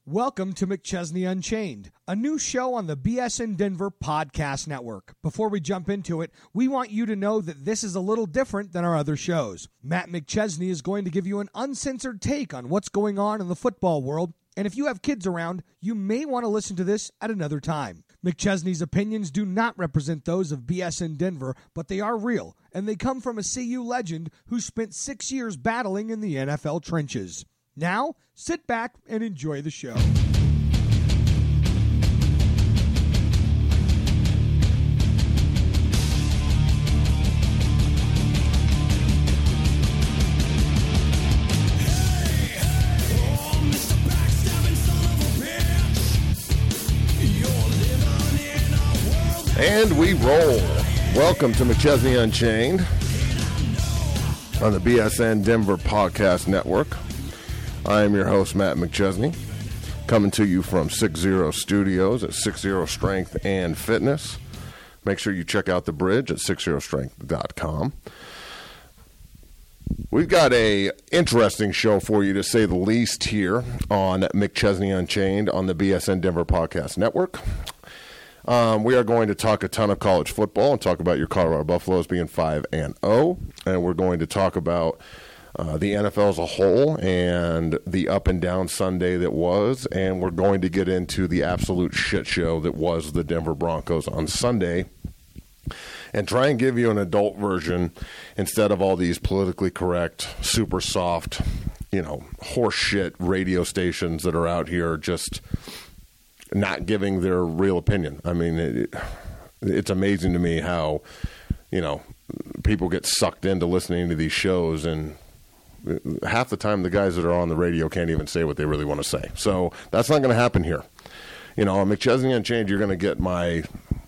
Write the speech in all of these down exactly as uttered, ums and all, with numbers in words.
Welcome to McChesney Unchained, a new show on the B S N Denver Podcast Network. Before we jump into it, we want you to know that this is a little different than our other shows. Matt McChesney is going to give you an uncensored take on what's going on in the football world, and if you have kids around, you may want to listen to this at another time. McChesney's opinions do not represent those of B S N Denver, but they are real, and they come from a C U legend who spent six years battling in the N F L trenches. Now, sit back and enjoy the show. And we roll. Welcome to McChesney Unchained on the B S N Denver Podcast Network. I am your host, Matt McChesney, coming to you from six zero Studios at six zero Strength and Fitness. Make sure you check out the bridge at six zero strength dot com. We've got a interesting show for you, to say the least, here on McChesney Unchained on the B S N Denver Podcast Network. Um, we are going to talk a ton of college football and talk about your Colorado Buffaloes being five and oh, and we're going to talk about uh, the N F L as a whole and the up and down Sunday that was, and we're going to get into the absolute shit show that was the Denver Broncos on Sunday, and try and give you an adult version instead of all these politically correct, super soft, you know, horse shit radio stations that are out here just not giving their real opinion. I mean, it, it's amazing to me how, you know, people get sucked into listening to these shows, and half the time the guys that are on the radio can't even say what they really want to say. So that's not going to happen here. You know, on McChesney Unchained, you're going to get my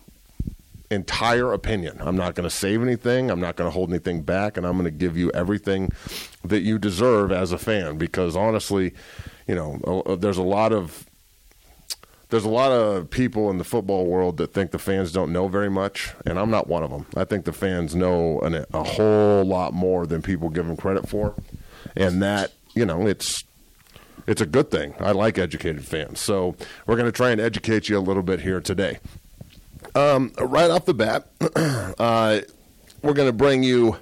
entire opinion. I'm not going to save anything. I'm not going to hold anything back, and I'm going to give you everything that you deserve as a fan, because honestly, you know, there's a lot of There's a lot of people in the football world that think the fans don't know very much, and I'm not one of them. I think the fans know an, a whole lot more than people give them credit for, and that, you know, it's it's a good thing. I like educated fans, so we're going to try and educate you a little bit here today. Um, right off the bat, uh, we're going to bring you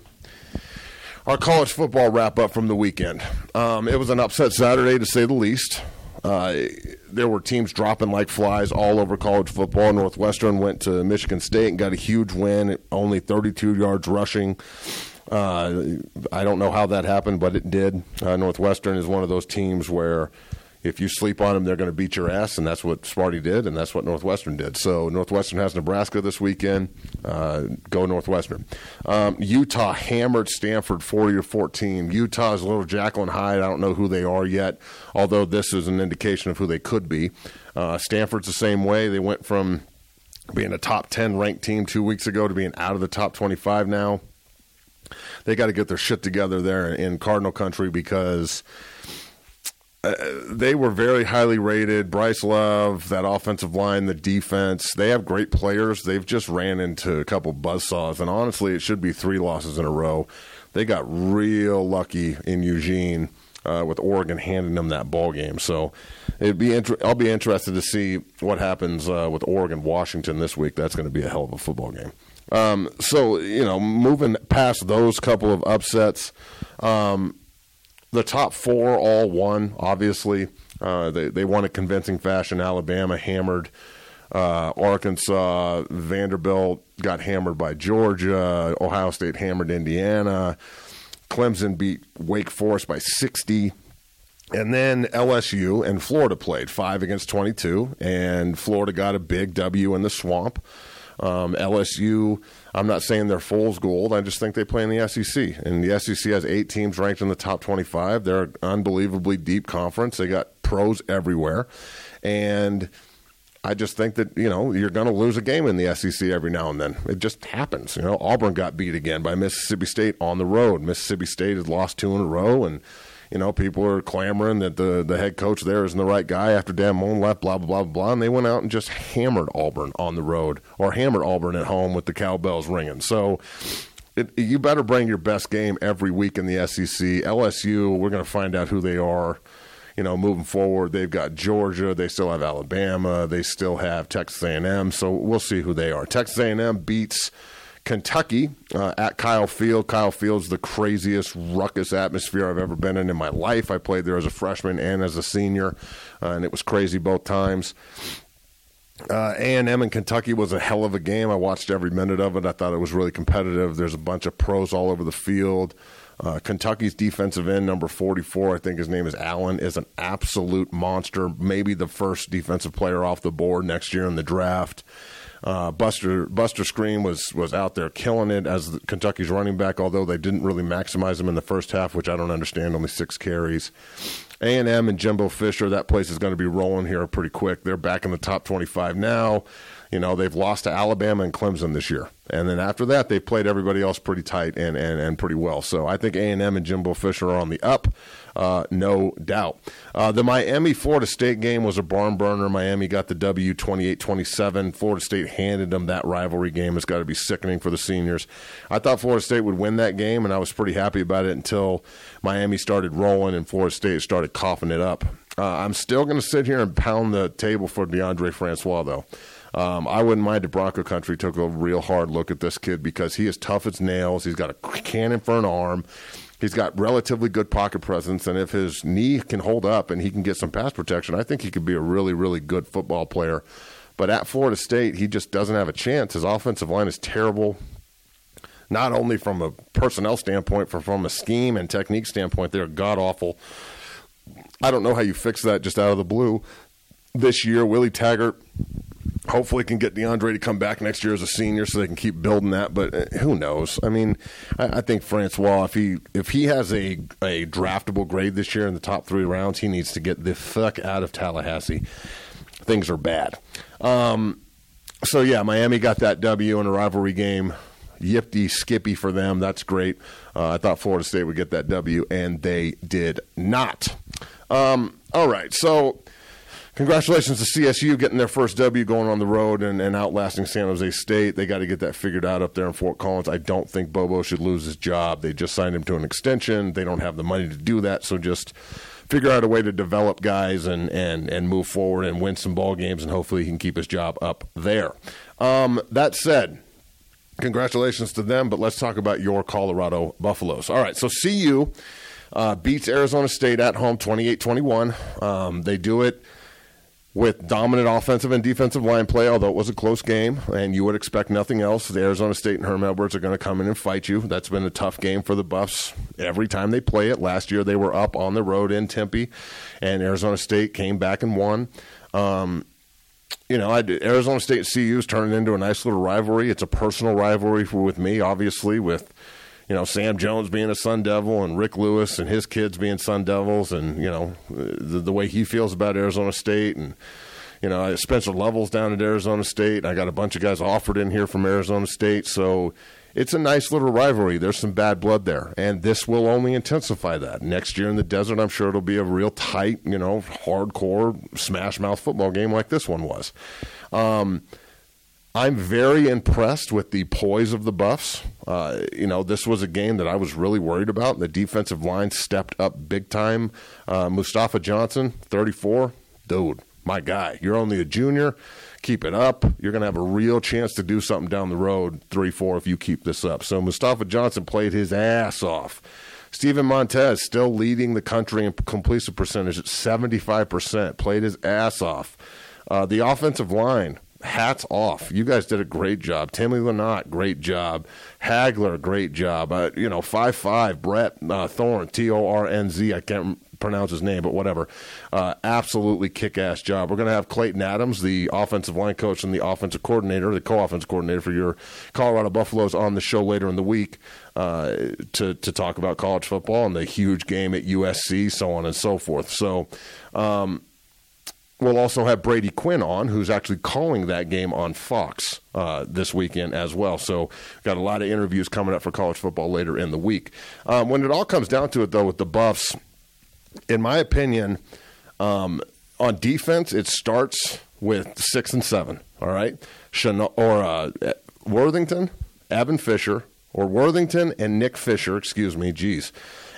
our college football wrap-up from the weekend. Um, it was an upset Saturday, to say the least. Uh, there were teams dropping like flies all over college football. Northwestern went to Michigan State and got a huge win, only thirty-two yards rushing. Uh, I don't know how that happened, but it did. Uh, Northwestern is one of those teams where if you sleep on them, they're going to beat your ass, and that's what Sparty did, and that's what Northwestern did. So Northwestern has Nebraska this weekend. Uh, go Northwestern. Um, Utah hammered Stanford forty to fourteen. Utah's a little Jekyll and Hyde. I don't know who they are yet, although this is an indication of who they could be. Uh, Stanford's the same way. They went from being a top ten ranked team two weeks ago to being out of the top twenty-five now. They got to get their shit together there in Cardinal country, because Uh, they were very highly rated. Bryce Love, that offensive line, the defense, they have great players. They've just ran into a couple buzzsaws, and honestly, it should be three losses in a row. They got real lucky in Eugene uh, with Oregon handing them that ball game. So it'd be inter- I'll be interested to see what happens uh, with Oregon-Washington this week. That's going to be a hell of a football game. Um, so, you know, moving past those couple of upsets, um, the top four all won, obviously. Uh, they, they won in convincing fashion. Alabama hammered uh, Arkansas. Vanderbilt got hammered by Georgia. Ohio State hammered Indiana. Clemson beat Wake Forest by sixty. And then L S U and Florida played, five against twenty-two. And Florida got a big W in the Swamp. Um, L S U, I'm not saying they're fool's gold. I just think they play in the S E C. And the S E C has eight teams ranked in the top twenty-five. They're an unbelievably deep conference. They got pros everywhere. And I just think that, you know, you're going to lose a game in the S E C every now and then. It just happens. You know, Auburn got beat again by Mississippi State on the road. Mississippi State has lost two in a row, and you know, people are clamoring that the, the head coach there isn't the right guy after Dan Mullen left, blah, blah, blah, blah. And they went out and just hammered Auburn on the road, or hammered Auburn at home with the cowbells ringing. So it, you better bring your best game every week in the S E C. L S U, we're going to find out who they are you know, moving forward. They've got Georgia. They still have Alabama. They still have Texas A and M. So we'll see who they are. Texas A and M beats Kentucky uh, at Kyle Field. Kyle Field's the craziest ruckus atmosphere I've ever been in in my life. I played there as a freshman and as a senior, uh, and it was crazy both times. Uh, A and M and Kentucky was a hell of a game. I watched every minute of it. I thought it was really competitive. There's a bunch of pros all over the field. Uh, Kentucky's defensive end, number forty-four, I think his name is Allen, is an absolute monster. Maybe the first defensive player off the board next year in the draft. Uh, Buster Buster Screen was, was out there killing it as the, Kentucky's running back, although they didn't really maximize him in the first half, which I don't understand, only six carries. A and M and Jimbo Fisher, that place is going to be rolling here pretty quick. They're back in the top twenty-five now. You know, they've lost to Alabama and Clemson this year. And then after that, they played everybody else pretty tight and, and, and pretty well. So I think A and M and Jimbo Fisher are on the up, uh, no doubt. Uh, the Miami-Florida State game was a barn burner. Miami got the W twenty-eight twenty-seven. Florida State handed them that rivalry game. It's got to be sickening for the seniors. I thought Florida State would win that game, and I was pretty happy about it until Miami started rolling and Florida State started coughing it up. Uh, I'm still going to sit here and pound the table for DeAndre Francois, though. Um, I wouldn't mind if Bronco Country took a real hard look at this kid because he is tough as nails. He's got a cannon for an arm. He's got relatively good pocket presence, and if his knee can hold up and he can get some pass protection, I think he could be a really, really good football player. But at Florida State, he just doesn't have a chance. His offensive line is terrible, not only from a personnel standpoint, but from a scheme and technique standpoint. They're god-awful. I don't know how you fix that just out of the blue. This year, Willie Taggart hopefully can get DeAndre to come back next year as a senior so they can keep building that, but uh, who knows? I mean, I, I think Francois, if he if he has a, a draftable grade this year in the top three rounds, he needs to get the fuck out of Tallahassee. Things are bad. Um, so, yeah, Miami got that W in a rivalry game. Yippee skippy for them. That's great. Uh, I thought Florida State would get that W, and they did not. Um, all right, so congratulations to C S U getting their first W going on the road and, and outlasting San Jose State. They got to get that figured out up there in Fort Collins. I don't think Bobo should lose his job. They just signed him to an extension. They don't have the money to do that, so just figure out a way to develop guys and, and, and move forward and win some ball games, and hopefully he can keep his job up there. Um, that said, congratulations to them, but let's talk about your Colorado Buffaloes. All right, so C U uh, beats Arizona State at home twenty-eight twenty-one. Um, they do it with dominant offensive and defensive line play, although it was a close game, and you would expect nothing else. The Arizona State and Herm Edwards are going to come in and fight you. That's been a tough game for the Buffs every time they play it. Last year they were up on the road in Tempe, and Arizona State came back and won. Um, you know, I, Arizona State and C U is turning into a nice little rivalry. It's a personal rivalry for, with me, obviously, with you know, Sam Jones being a Sun Devil and Rick Lewis and his kids being Sun Devils, and, you know, the, the way he feels about Arizona State. And, you know, Spencer Lovell's down at Arizona State. I got a bunch of guys offered in here from Arizona State. So it's a nice little rivalry. There's some bad blood there, and this will only intensify that. Next year in the desert, I'm sure it'll be a real tight, you know, hardcore smash-mouth football game like this one was. Um I'm very impressed with the poise of the Buffs. Uh, you know, this was a game that I was really worried about. The defensive line stepped up big time. Uh, Mustafa Johnson, thirty-four, dude, my guy. You're only a junior. Keep it up. You're going to have a real chance to do something down the road, three four, if you keep this up. So Mustafa Johnson played his ass off. Steven Montez still leading the country in completion percentage at seventy-five percent. Played his ass off. Uh, the offensive line, hats off. You guys did a great job. Timmy Lynott, great job. Hagler, great job. Uh, you know, five five, Brett uh, Thorn, T O R N Z. I can't pronounce his name, but whatever. Uh, absolutely kick-ass job. We're going to have Clayton Adams, the offensive line coach and the offensive coordinator, the co-offensive coordinator for your Colorado Buffaloes, on the show later in the week uh, to, to talk about college football and the huge game at U S C, so on and so forth. So, um, we'll also have Brady Quinn on, who's actually calling that game on Fox uh, this weekend as well. So got a lot of interviews coming up for college football later in the week. Um, when it all comes down to it, though, with the Buffs, in my opinion, um, on defense, it starts with six and seven, all right? Chano- or uh, Worthington, Evan Fisher, or Worthington and Nick Fisher, excuse me, geez,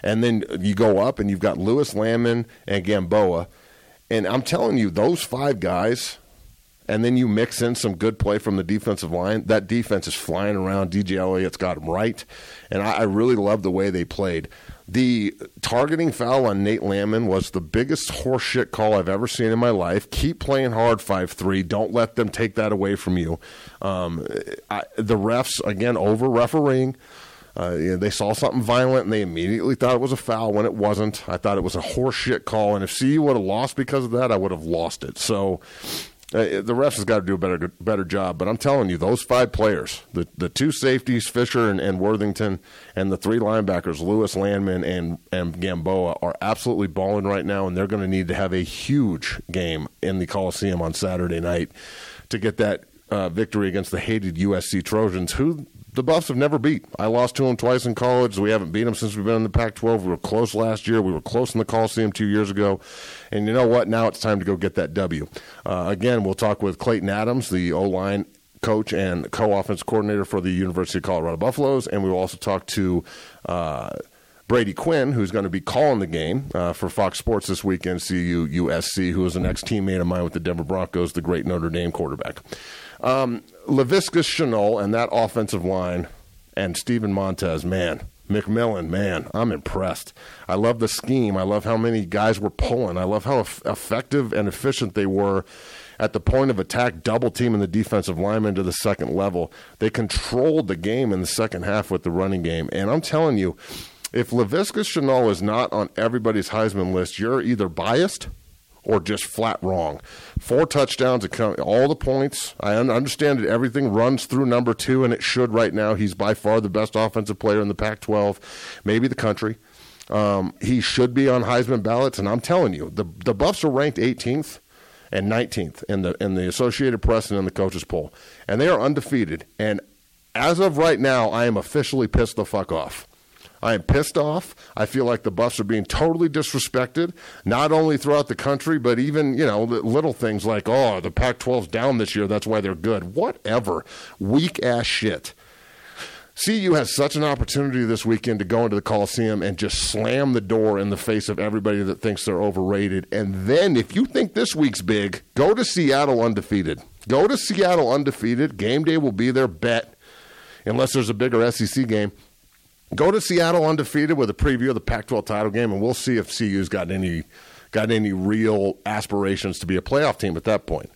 And then you go up and you've got Lewis Landman and Gamboa. And I'm telling you, those five guys, and then you mix in some good play from the defensive line, that defense is flying around. D J Elliott's got them right. And I, I really love the way they played. The targeting foul on Nate Landman was the biggest horseshit call I've ever seen in my life. Keep playing hard, five three. Don't let them take that away from you. Um, I, the refs, again, over-refereeing. Uh, you know, they saw something violent, and they immediately thought it was a foul when it wasn't. I thought it was a horseshit call, and if C U would have lost because of that, I would have lost it. So uh, the refs has got to do a better better job. But I'm telling you, those five players, the, the two safeties, Fisher and, and Worthington, and the three linebackers, Lewis, Landman, and, and Gamboa, are absolutely balling right now, and they're going to need to have a huge game in the Coliseum on Saturday night to get that uh, victory against the hated U S C Trojans, who the Buffs have never beat. I lost to them twice in college. We haven't beat them since we've been in the Pac twelve. We were close last year. We were close in the Coliseum two years ago. And you know what? Now it's time to go get that W. Uh, again, we'll talk with Clayton Adams, the O-line coach and co-offense coordinator for the University of Colorado Buffaloes. And we will also talk to uh, Brady Quinn, who's going to be calling the game uh, for Fox Sports this weekend, C U U S C, who is an ex-teammate of mine with the Denver Broncos, the great Notre Dame quarterback. Um, Laviska Shenault and that offensive line and Steven Montez, man, McMillan, man, I'm impressed. I love the scheme. I love how many guys were pulling. I love how eff- effective and efficient they were at the point of attack, double teaming the defensive lineman to the second level. They controlled the game in the second half with the running game. And I'm telling you, if Laviska Shenault is not on everybody's Heisman list, you're either biased or just flat wrong. Four touchdowns, all the points. I understand that everything runs through number two, and it should right now. He's by far the best offensive player in the Pac twelve, maybe the country. Um, he should be on Heisman ballots, and I'm telling you, the the Buffs are ranked eighteenth and nineteenth in the in the Associated Press and in the coaches poll, and they are undefeated. And as of right now, I am officially pissed the fuck off. I am pissed off. I feel like the Buffs are being totally disrespected, not only throughout the country, but even, you know, little things like, oh, the Pac twelve's down this year, that's why they're good. Whatever. Weak-ass shit. C U has such an opportunity this weekend to go into the Coliseum and just slam the door in the face of everybody that thinks they're overrated. And then, if you think this week's big, go to Seattle undefeated. Go to Seattle undefeated. Game day will be their bet, unless there's a bigger S E C game. Go to Seattle undefeated with a preview of the Pac twelve title game, and we'll see if C U's got any got any real aspirations to be a playoff team at that point.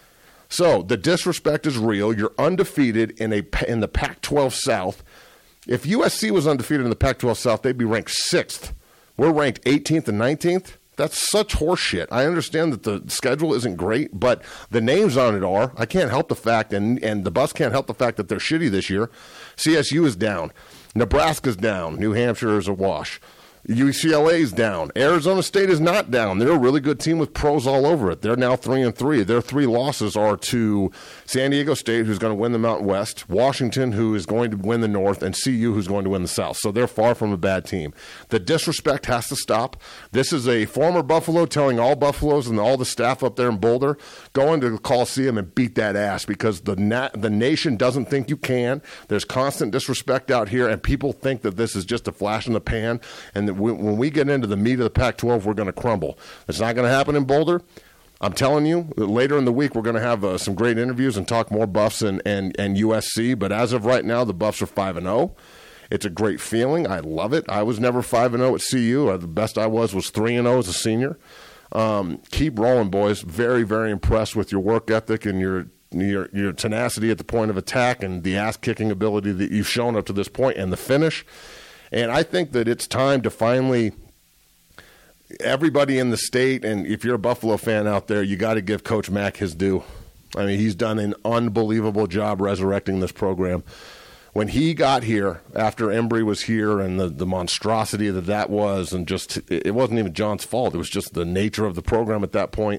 So the disrespect is real. You're undefeated in a in the Pac twelve South. If U S C was undefeated in the Pac twelve South, they'd be ranked sixth. We're ranked eighteenth and nineteenth. That's such horseshit. I understand that the schedule isn't great, but the names on it are. I can't help the fact, and, and the Buffs can't help the fact that they're shitty this year. C S U is down. Nebraska's down. New Hampshire is a wash. U C L A's down. Arizona State is not down. They're a really good team with pros all over it. They're now three and three. Their three losses are to San Diego State, who's going to win the Mountain West, Washington, who is going to win the North, and C U, who's going to win the South. So they're far from a bad team. The disrespect has to stop. This is a former Buffalo telling all Buffaloes and all the staff up there in Boulder, go into the Coliseum and beat that ass, because the na- the nation doesn't think you can. There's constant disrespect out here, and people think that this is just a flash in the pan, and that when we get into the meat of the Pac twelve, we're going to crumble. It's not going to happen in Boulder. I'm telling you, later in the week, we're going to have uh, some great interviews and talk more Buffs and, and, and U S C. But as of right now, the Buffs are five and oh. It's a great feeling. I love it. I was never five and oh at C U. The best I was was three and oh as a senior. Um, keep rolling, boys. Very, very impressed with your work ethic and your Your, your tenacity at the point of attack and the ass-kicking ability that you've shown up to this point and the finish. And I think that it's time to finally, everybody in the state, and if you're a Buffalo fan out there, you got to give Coach Mack his due. I mean, he's done an unbelievable job resurrecting this program. When he got here, after Embry was here and the, the monstrosity that that was, and just, it wasn't even John's fault. It was just the nature of the program at that point.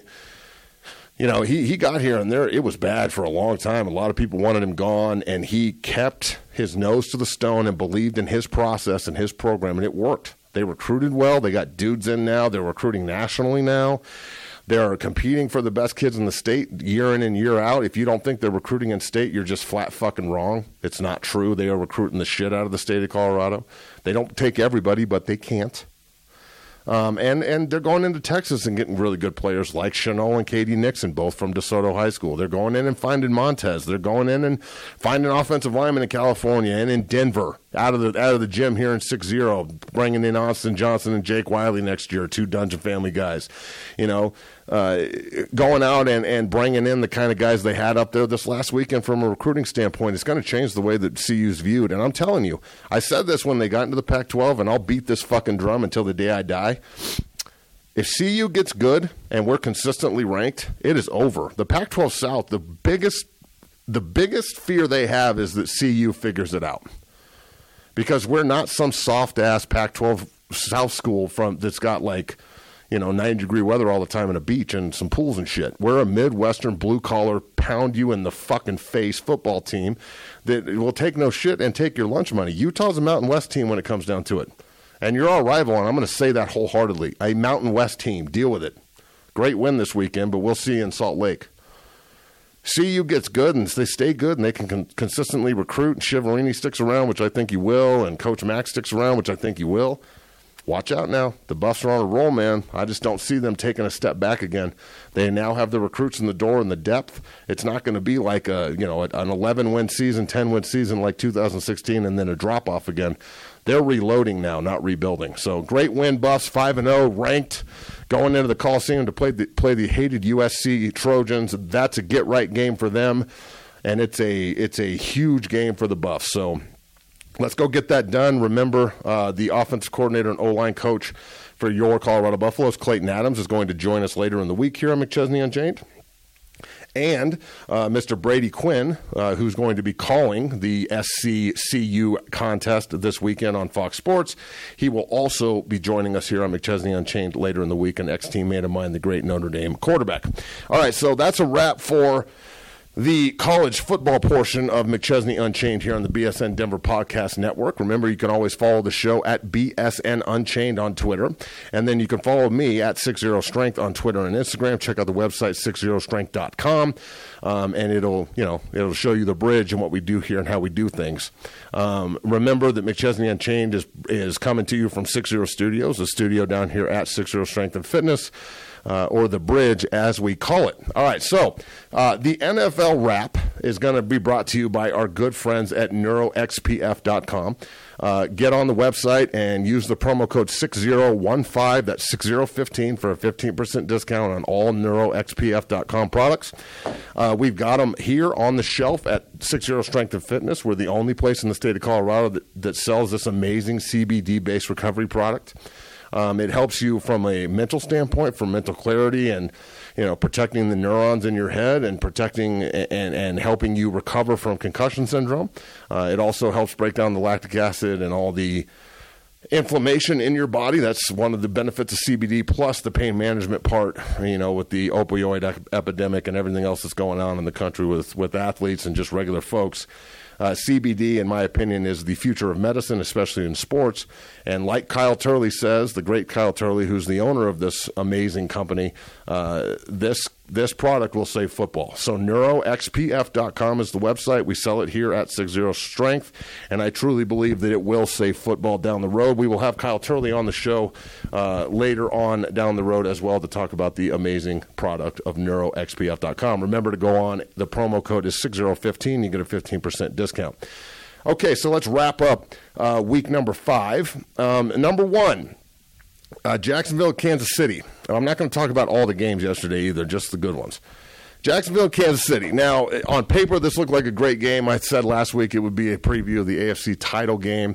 You know, he, he got here, and there it was bad for a long time. A lot of people wanted him gone, and he kept his nose to the stone and believed in his process and his program, and it worked. They recruited well. They got dudes in now. They're recruiting nationally now. They're competing for the best kids in the state year in and year out. If you don't think they're recruiting in state, you're just flat fucking wrong. It's not true. They are recruiting the shit out of the state of Colorado. They don't take everybody, but they can't. Um, and, and they're going into Texas and getting really good players like Chanel and Katie Nixon, both from DeSoto High School. They're going in and finding Montez. They're going in and finding offensive linemen in California and in Denver, out of the out of the gym here in six zero, bringing in Austin Johnson and Jake Wiley next year, two Dungeon Family guys. You know, uh, going out and, and bringing in the kind of guys they had up there this last weekend from a recruiting standpoint, it's going to change the way that C U's viewed. And I'm telling you, I said this when they got into the Pac twelve, and I'll beat this fucking drum until the day I die. If C U gets good and we're consistently ranked, it is over. The Pac twelve South, the biggest the biggest fear they have is that C U figures it out. Because we're not some soft-ass Pac twelve South school from that's got, like, you know, ninety-degree weather all the time and a beach and some pools and shit. We're a Midwestern, blue-collar, pound-you-in-the-fucking-face football team that will take no shit and take your lunch money. Utah's a Mountain West team when it comes down to it. And you're our rival, and I'm going to say that wholeheartedly. A Mountain West team. Deal with it. Great win this weekend, but we'll see you in Salt Lake. C U gets good, and they stay good, and they can con- consistently recruit, and Shiverini sticks around, which I think he will, and Coach Mack sticks around, which I think he will. Watch out now. The Buffs are on a roll, man. I just don't see them taking a step back again. They now have the recruits in the door and the depth. It's not going to be like a, you know, an eleven-win season, ten-win season like two thousand sixteen and then a drop-off again. They're reloading now, not rebuilding. So great win, Buffs, five and oh, ranked, going into the Coliseum to play the, play the hated U S C Trojans. That's a get-right game for them, and it's a it's a huge game for the Buffs. So let's go get that done. Remember, uh, the offensive coordinator and O-line coach for your Colorado Buffaloes, Clayton Adams, is going to join us later in the week here on McChesney Unchained. And uh, Mister Brady Quinn, uh, who's going to be calling the S C C U contest this weekend on Fox Sports. He will also be joining us here on McChesney Unchained later in the week, an ex-teammate of mine, the great Notre Dame quarterback. All right, so that's a wrap for the college football portion of McChesney Unchained here on the B S N Denver Podcast Network. Remember, you can always follow the show at B S N Unchained on Twitter. And then you can follow me at sixty Strength on Twitter and Instagram. Check out the website, sixty strength dot com. Um, and it'll, you know, it'll show you the bridge and what we do here and how we do things. Um, remember that McChesney Unchained is, is coming to you from sixty Studios, a studio down here at sixty Strength and Fitness. Uh, or the bridge, as we call it. All right, so uh, the N F L wrap is going to be brought to you by our good friends at neuro x p f dot com. Uh, get on the website and use the promo code six zero one five, that's six zero one five, for a fifteen percent discount on all neuro x p f dot com products. Uh, we've got them here on the shelf at sixty Strength and Fitness. We're the only place in the state of Colorado that, that sells this amazing C B D-based recovery product. Um, it helps you from a mental standpoint, for mental clarity and, you know, protecting the neurons in your head and protecting and, and helping you recover from concussion syndrome. Uh, it also helps break down the lactic acid and all the inflammation in your body. That's one of the benefits of C B D, plus the pain management part, you know, with the opioid ep- epidemic and everything else that's going on in the country with, with athletes and just regular folks. Uh, C B D, in my opinion, is the future of medicine, especially in sports. And like Kyle Turley says, the great Kyle Turley, who's the owner of this amazing company, uh, this this product will save football. So neuro x p f dot com is the website. We sell it here at sixty Strength, and I truly believe that it will save football down the road. We will have Kyle Turley on the show uh, later on down the road as well to talk about the amazing product of neuro x p f dot com. Remember to go on. The promo code is six zero one five. You get a fifteen percent discount. Okay, so let's wrap up uh, week number five. Um, number one, uh, Jacksonville, Kansas City. I'm not going to talk about all the games yesterday either, just the good ones. Jacksonville, Kansas City. Now, on paper, this looked like a great game. I said last week it would be a preview of the A F C title game.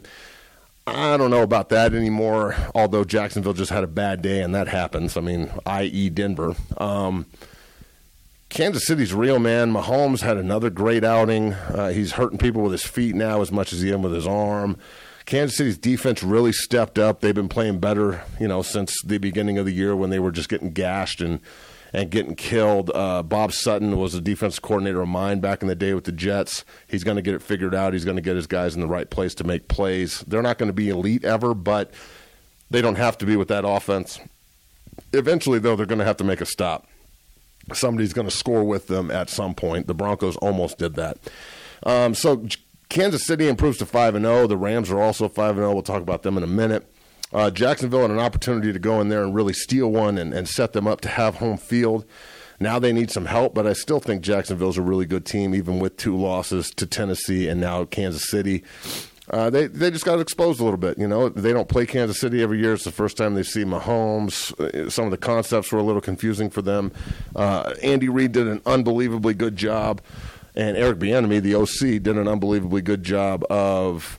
I don't know about that anymore, although Jacksonville just had a bad day, and that happens. I mean, that is. Denver. Um Kansas City's real, man. Mahomes had another great outing. Uh, he's hurting people with his feet now as much as he is with his arm. Kansas City's defense really stepped up. They've been playing better, you know, since the beginning of the year when they were just getting gashed and, and getting killed. Uh, Bob Sutton was a defensive coordinator of mine back in the day with the Jets. He's going to get it figured out. He's going to get his guys in the right place to make plays. They're not going to be elite ever, but they don't have to be with that offense. Eventually, though, they're going to have to make a stop. somebody's going to score with them at some point. The Broncos almost did that. Um, so Kansas City improves to five and oh. The Rams are also five and oh. We'll talk about them in a minute. Uh, Jacksonville had an opportunity to go in there and really steal one and, and set them up to have home field. Now they need some help, but I still think Jacksonville's a really good team, even with two losses to Tennessee and now Kansas City. Uh, they they just got exposed a little bit. You know, they don't play Kansas City every year. It's the first time they see Mahomes. Some of the concepts were a little confusing for them. Uh, Andy Reid did an unbelievably good job, and Eric Bieniemy, the O C, did an unbelievably good job of,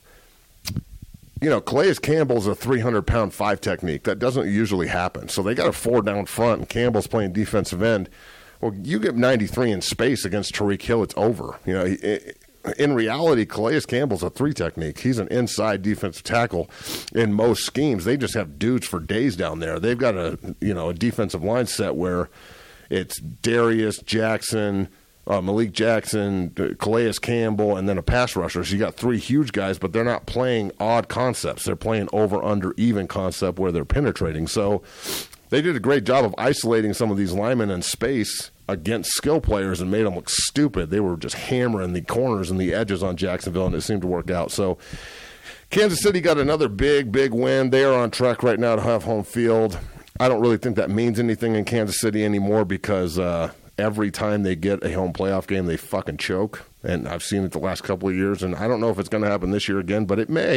you know, Calais Campbell's a three hundred pound five technique. That doesn't usually happen. So they got a four down front, and Campbell's playing defensive end. Well, you get ninety-three in space against Tyreek Hill, it's over. You know, it, in reality, Calais Campbell's a three technique. He's an inside defensive tackle in most schemes. They just have dudes for days down there. They've got a, you know, a defensive line set where it's Darius Jackson, uh, Malik Jackson, Calais Campbell, and then a pass rusher. So you got three huge guys, but they're not playing odd concepts. They're playing over, under, even concept where they're penetrating. So they did a great job of isolating some of these linemen in space against skill players and made them look stupid. They were just hammering the corners and the edges on Jacksonville, and it seemed to work out. So Kansas City got another big, big win. They are on track right now to have home field. I don't really think that means anything in Kansas City anymore because uh, every time they get a home playoff game, they fucking choke. And I've seen it the last couple of years, and I don't know if it's going to happen this year again, but it may.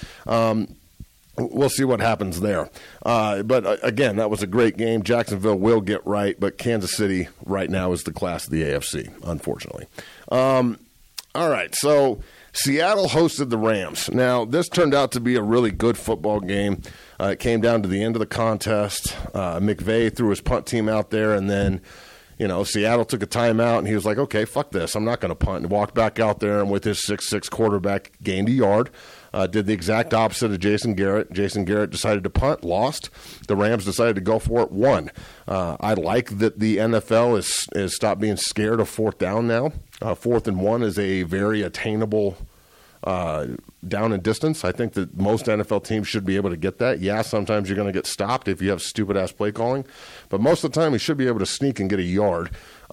Um We'll see what happens there. Uh, but, uh, again, that was a great game. Jacksonville will get right, but Kansas City right now is the class of the A F C, unfortunately. Um, all right, so Seattle hosted the Rams. Now, this turned out to be a really good football game. Uh, it came down to the end of the contest. Uh, McVay threw his punt team out there, and then, you know, Seattle took a timeout, and he was like, okay, fuck this. I'm not going to punt. And walked back out there, and with his six six quarterback, gained a yard. Uh, did the exact opposite of Jason Garrett. Jason Garrett decided to punt, lost. The Rams decided to go for it, won. Uh, I like that the N F L is, is stopped being scared of fourth down now. Uh, fourth and one is a very attainable uh, down and distance. I think that most N F L teams should be able to get that. Yeah, sometimes you're going to get stopped if you have stupid-ass play calling. But most of the time, you should be able to sneak and get a yard.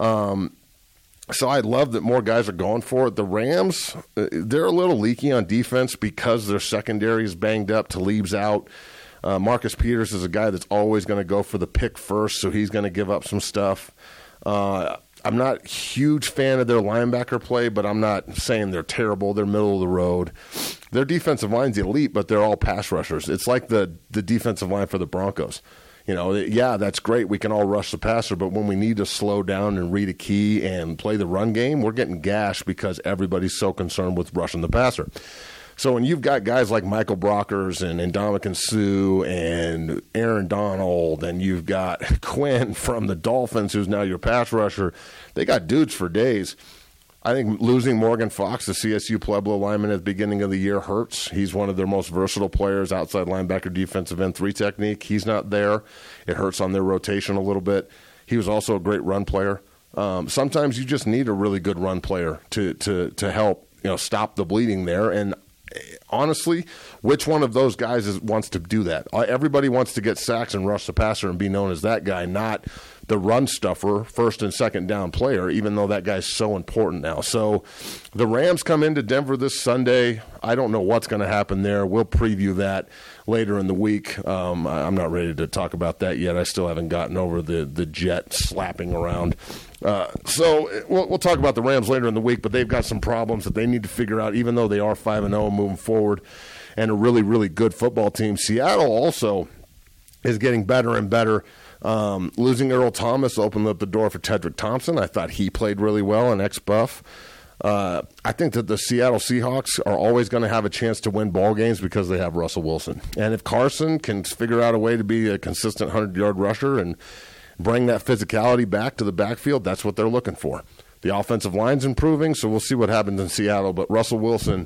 Um So I love that more guys are going for it. The Rams, they're a little leaky on defense because their secondary is banged up. Talib's out. Uh, Marcus Peters is a guy that's always going to go for the pick first, so he's going to give up some stuff. Uh, I'm not a huge fan of their linebacker play, but I'm not saying they're terrible. They're middle of the road. Their defensive line's elite, but they're all pass rushers. It's like the, the defensive line for the Broncos. You know, yeah, that's great. We can all rush the passer, but when we need to slow down and read a key and play the run game, we're getting gashed because everybody's so concerned with rushing the passer. So when you've got guys like Michael Brockers and Ndamukong Suh and Aaron Donald, and you've got Quinn from the Dolphins, who's now your pass rusher, they got dudes for days. I think losing Morgan Fox, the C S U Pueblo lineman at the beginning of the year, hurts. He's one of their most versatile players, outside linebacker, defensive end, three technique. He's not there. It hurts on their rotation a little bit. He was also a great run player. Um, sometimes you just need a really good run player to to to help, you know, stop the bleeding there. And honestly, which one of those guys is, wants to do that? Everybody wants to get sacks and rush the passer and be known as that guy, not the run stuffer, first and second down player, even though that guy's so important now. So the Rams come into Denver this Sunday. I don't know what's going to happen there. We'll preview that later in the week. Um, I'm not ready to talk about that yet. I still haven't gotten over the, the jet slapping around. Uh, so we'll, we'll talk about the Rams later in the week, but they've got some problems that they need to figure out, even though they are five and oh moving forward and a really, really good football team. Seattle also is getting better and better. Um, losing Earl Thomas opened up the door for Tedrick Thompson. I thought he played really well, an ex-Buff. Uh, I think that the Seattle Seahawks are always going to have a chance to win ball games because they have Russell Wilson. And if Carson can figure out a way to be a consistent hundred-yard rusher and bring that physicality back to the backfield, that's what they're looking for. The offensive line's improving, so we'll see what happens in Seattle. But Russell Wilson,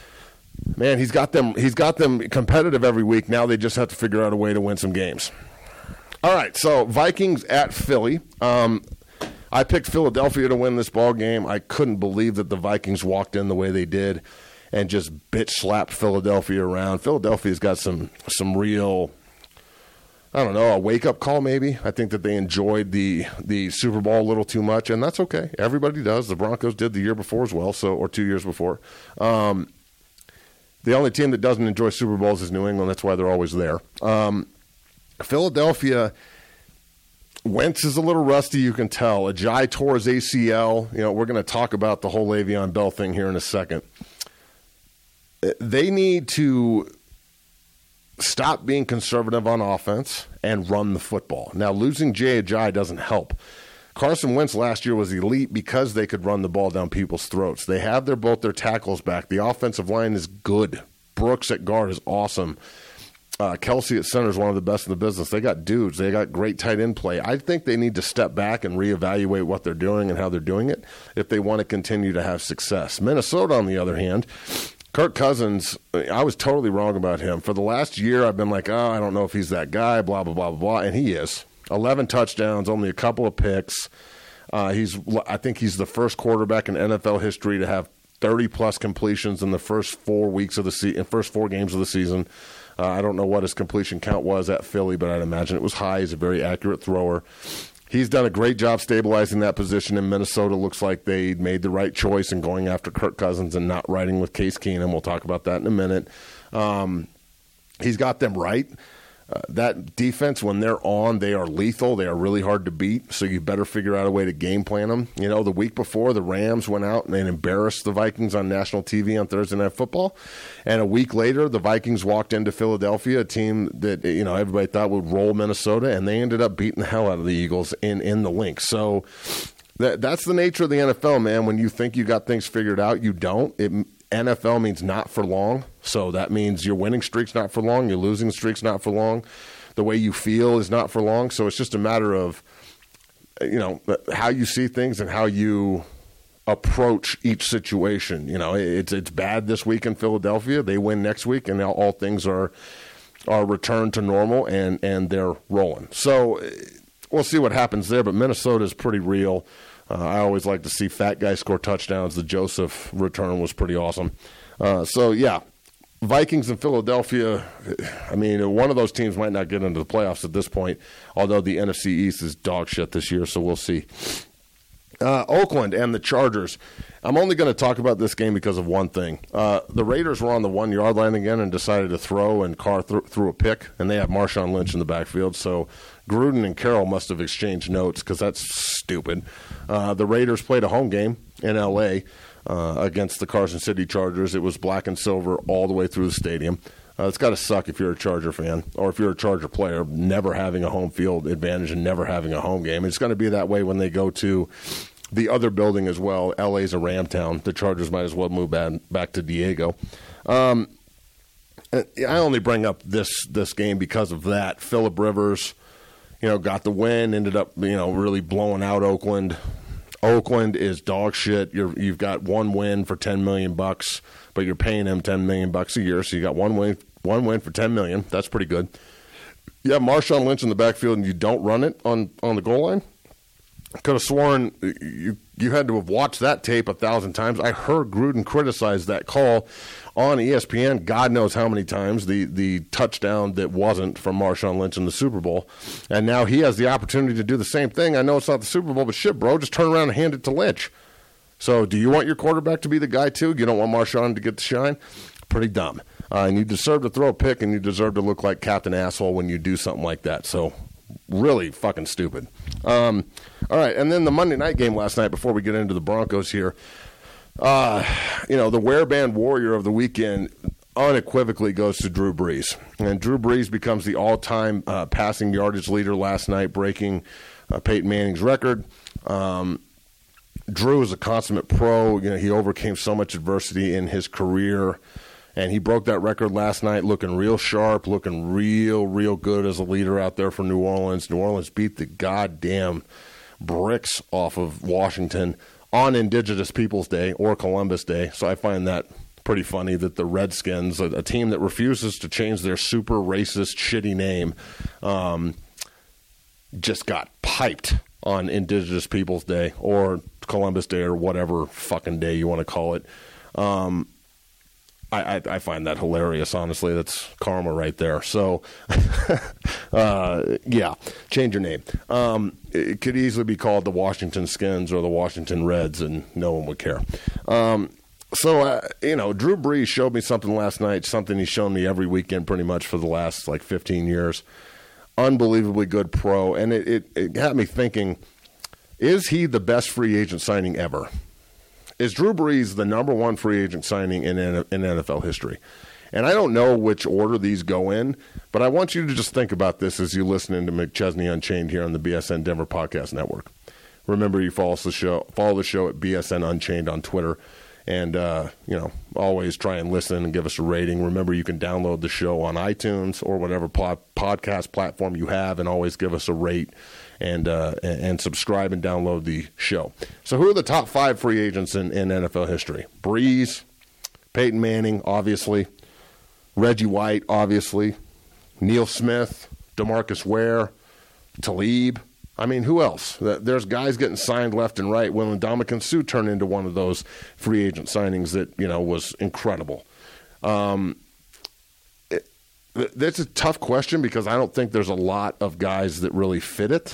man, he's got them, he's got them competitive every week. Now they just have to figure out a way to win some games. All right, so Vikings at Philly. Um, I picked Philadelphia to win this ball game. I couldn't believe that the Vikings walked in the way they did and just bitch slapped Philadelphia around. Philadelphia's got some some real I don't know, a wake-up call maybe. I think that they enjoyed the the Super Bowl a little too much, and that's okay. Everybody does. The Broncos did the year before as well, so or two years before. Um, the only team that doesn't enjoy Super Bowls is New England. That's why they're always there. Um, Philadelphia, Wentz is a little rusty, you can tell. Ajayi tore his A C L. You know, we're going to talk about the whole Le'Veon Bell thing here in a second. They need to stop being conservative on offense and run the football. Now, losing Jay Ajayi doesn't help. Carson Wentz last year was elite because they could run the ball down people's throats. They have their both their tackles back. The offensive line is good. Brooks at guard is awesome. Uh, Kelsey at center is one of the best in the business. They got dudes. They got great tight end play. I think they need to step back and reevaluate what they're doing and how they're doing it if they want to continue to have success. Minnesota, on the other hand, Kirk Cousins, I was totally wrong about him. For the last year, I've been like, oh, I don't know if he's that guy, blah, blah, blah, blah, blah, and he is. eleven touchdowns, only a couple of picks. Uh, he's, I think he's the first quarterback in N F L history to have thirty-plus completions in the first four weeks of the se- first four games of the season. Uh, I don't know what his completion count was at Philly, but I'd imagine it was high. He's a very accurate thrower. He's done a great job stabilizing that position in Minnesota. Looks like they made the right choice in going after Kirk Cousins and not riding with Case Keenum. We'll talk about that in a minute. Um, he's got them right. Uh, that defense, when they're on, they are lethal. They are really hard to beat, so you better figure out a way to game plan them. You know, the week before, the Rams went out and they embarrassed the Vikings on national T V on Thursday Night Football, and a week later, the Vikings walked into Philadelphia, a team that, you know, everybody thought would roll Minnesota, and they ended up beating the hell out of the Eagles in, in the Lynx. So that, that's the nature of the N F L, man. When you think you got things figured out, you don't. It N F L means not for long, so that means your winning streak's not for long, your losing streak's not for long, the way you feel is not for long, so it's just a matter of, you know, how you see things and how you approach each situation. You know, it's it's bad this week in Philadelphia, they win next week, and now all things are are returned to normal, and, and they're rolling. So we'll see what happens there, but Minnesota's pretty real. Uh, I always like to see fat guys score touchdowns. The Joseph return was pretty awesome. Uh, so, yeah, Vikings and Philadelphia, I mean, one of those teams might not get into the playoffs at this point, although the N F C East is dog shit this year, so we'll see. Uh, Oakland and the Chargers. I'm only going to talk about this game because of one thing. Uh, the Raiders were on the one-yard line again and decided to throw, and Carr th- threw a pick, and they have Marshawn Lynch in the backfield, so Gruden and Carroll must have exchanged notes because that's stupid. Uh, the Raiders played a home game in L A uh, against the Carson City Chargers. It was black and silver all the way through the stadium. Uh, it's got to suck if you're a Charger fan or if you're a Charger player, never having a home field advantage and never having a home game. It's going to be that way when they go to the other building as well. L A's a Ram town. The Chargers might as well move back, back to Diego. Um, I only bring up this this game because of that. Phillip Rivers, you know, got the win, ended up, you know, really blowing out Oakland. Oakland is dog shit. You're, you've got one win for ten million bucks, but you're paying him ten million bucks a year, so you got one win, one win for ten million. That's pretty good. You have Marshawn Lynch in the backfield, and you don't run it on, on the goal line. I could have sworn you you had to have watched that tape a thousand times. I heard Gruden criticize that call on E S P N God knows how many times, the, the touchdown that wasn't from Marshawn Lynch in the Super Bowl. And now he has the opportunity to do the same thing. I know it's not the Super Bowl, but shit, bro, just turn around and hand it to Lynch. So do you want your quarterback to be the guy, too? You don't want Marshawn to get the shine? Pretty dumb. Uh, and you deserve to throw a pick, and you deserve to look like Captain Asshole when you do something like that. So really fucking stupid. Um, all right, and then the Monday night game last night, before we get into the Broncos here, uh, you know, the wear-band warrior of the weekend unequivocally goes to Drew Brees. And Drew Brees becomes the all-time uh, passing yardage leader last night, breaking uh, Peyton Manning's record. Um, Drew is a consummate pro. You know, he overcame so much adversity in his career, and he broke that record last night looking real sharp, looking real, real good as a leader out there for New Orleans. New Orleans beat the goddamn bricks off of Washington on Indigenous Peoples Day or Columbus Day. So I find that pretty funny that the Redskins, a, a team that refuses to change their super racist, shitty name, um, just got piped on Indigenous Peoples Day or Columbus Day or whatever fucking day you want to call it. Um, I, I, I find that hilarious, honestly. That's karma right there. So, uh, yeah, change your name. Um, it could easily be called the Washington Skins or the Washington Reds, and no one would care. Um, so, uh, you know, Drew Brees showed me something last night, something he's shown me every weekend pretty much for the last, like, fifteen years. Unbelievably good pro, and it, it, it got me thinking, is he the best free agent signing ever? Is Drew Brees the number one free agent signing in, in N F L history? And I don't know which order these go in, but I want you to just think about this as you listen to McChesney Unchained here on the B S N Denver Podcast Network. Remember, you follow the show, follow the show at B S N Unchained on Twitter, and uh, you know, always try and listen and give us a rating. Remember, you can download the show on iTunes or whatever pod, podcast platform you have, and always give us a rate. And, uh, and subscribe and download the show. So who are the top five free agents in, in N F L history? Brees, Peyton Manning, obviously. Reggie White, obviously. Neil Smith, DeMarcus Ware, Talib. I mean, who else? There's guys getting signed left and right. Will Ndamukong Suh turned into one of those free agent signings that, you know, was incredible. Um, it, that's a tough question because I don't think there's a lot of guys that really fit it.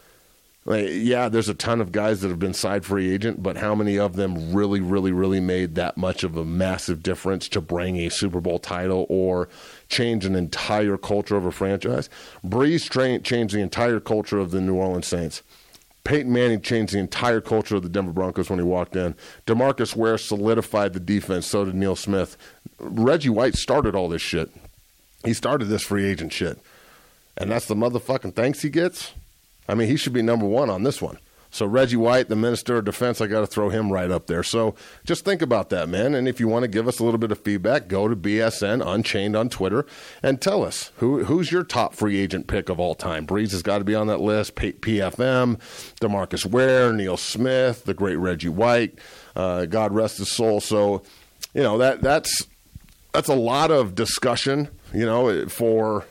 Like, yeah, there's a ton of guys that have been signed free agent, but how many of them really, really, really made that much of a massive difference to bring a Super Bowl title or change an entire culture of a franchise? Brees tra- changed the entire culture of the New Orleans Saints. Peyton Manning changed the entire culture of the Denver Broncos when he walked in. DeMarcus Ware solidified the defense, so did Neil Smith. Reggie White started all this shit. He started this free agent shit. And that's the motherfucking thanks he gets? I mean, he should be number one on this one. So Reggie White, the Minister of Defense, I got to throw him right up there. So just think about that, man. And if you want to give us a little bit of feedback, go to B S N Unchained on Twitter and tell us who who's your top free agent pick of all time. Brees has got to be on that list. P F M, DeMarcus Ware, Neil Smith, the great Reggie White. Uh, God rest his soul. So, you know, that that's that's a lot of discussion, you know, for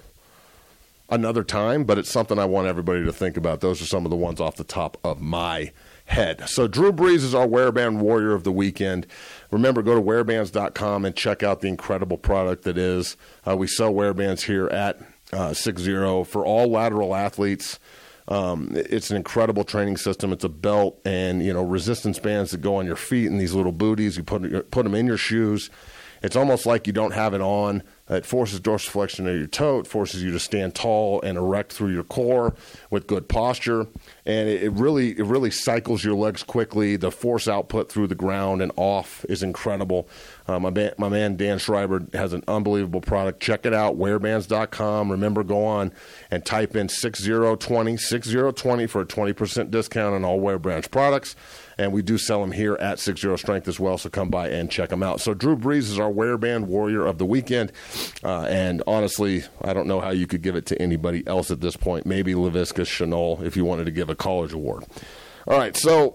another time, but it's something I want everybody to think about. Those are some of the ones off the top of my head. So Drew Brees is our Wearband Warrior of the weekend. Remember, go to wear bands dot com and check out the incredible product that is. Uh, we sell Wearbands here at uh, six zero for all lateral athletes. Um, it's an incredible training system. It's a belt and, you know, resistance bands that go on your feet and these little booties. You put, put them in your shoes. It's almost like you don't have it on. It forces dorsiflexion of your toe. It forces you to stand tall and erect through your core with good posture. And it, it really it really cycles your legs quickly. The force output through the ground and off is incredible. Uh, my, ba- my man Dan Schreiber has an unbelievable product. Check it out, wear bands dot com. Remember, go on and type in six zero twenty, six zero twenty for a twenty percent discount on all Wearbrands products. And we do sell them here at six zero Strength as well, so come by and check them out. So Drew Brees is our Wearband Warrior of the weekend. Uh, and honestly, I don't know how you could give it to anybody else at this point. Maybe Laviska Shenault if you wanted to give a college award. All right, so,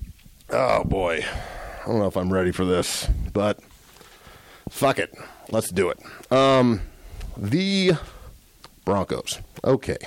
oh boy, I don't know if I'm ready for this, but fuck it. Let's do it. Um, the Broncos. Okay.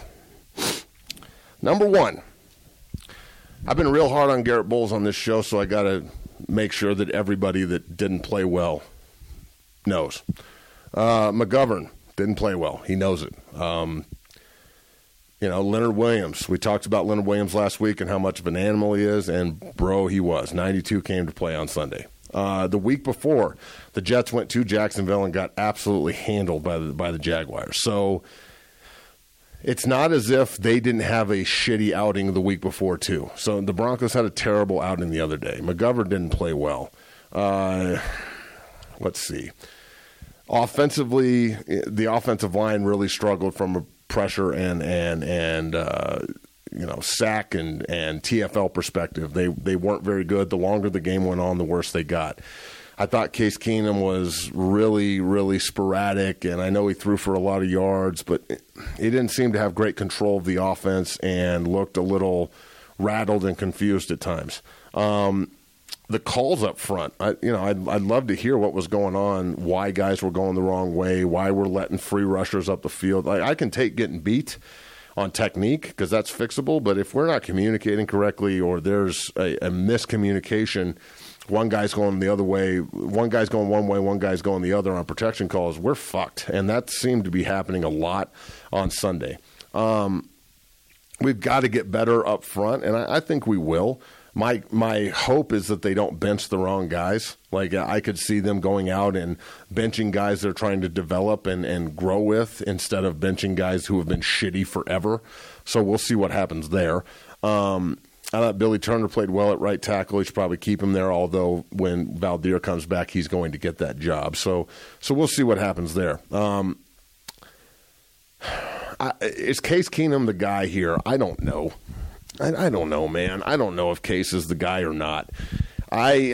Number one. I've been real hard on Garrett Bowles on this show, so I got to make sure that everybody that didn't play well knows. Uh, McGovern didn't play well. He knows it. Um, you know, Leonard Williams. We talked about Leonard Williams last week and how much of an animal he is, and, bro, he was. ninety-two came to play on Sunday. Uh, the week before, the Jets went to Jacksonville and got absolutely handled by the, by the Jaguars. So it's not as if they didn't have a shitty outing the week before, too. So the Broncos had a terrible outing the other day. McGovern didn't play well. Uh, let's see. Offensively, the offensive line really struggled from a pressure and and and uh, you know sack and, and T F L perspective. They they weren't very good. The longer the game went on, the worse they got. I thought Case Keenum was really, really sporadic, and I know he threw for a lot of yards, but he didn't seem to have great control of the offense and looked a little rattled and confused at times. Um, the calls up front, I, you know, I'd, I'd love to hear what was going on, why guys were going the wrong way, why we're letting free rushers up the field. Like, I can take getting beat on technique because that's fixable, but if we're not communicating correctly or there's a, a miscommunication one guy's going the other way, one guy's going one way, one guy's going the other on protection calls, we're fucked. And that seemed to be happening a lot on Sunday. Um, we've got to get better up front, and I, I think we will. My my hope is that they don't bench the wrong guys. Like, I could see them going out and benching guys they're trying to develop and, and grow with instead of benching guys who have been shitty forever. So we'll see what happens there. Um, I thought Billy Turner played well at right tackle. He should probably keep him there, although when Valdir comes back, he's going to get that job. So so we'll see what happens there. Um, I, is Case Keenum the guy here? I don't know. I, I don't know, man. I don't know if Case is the guy or not. I,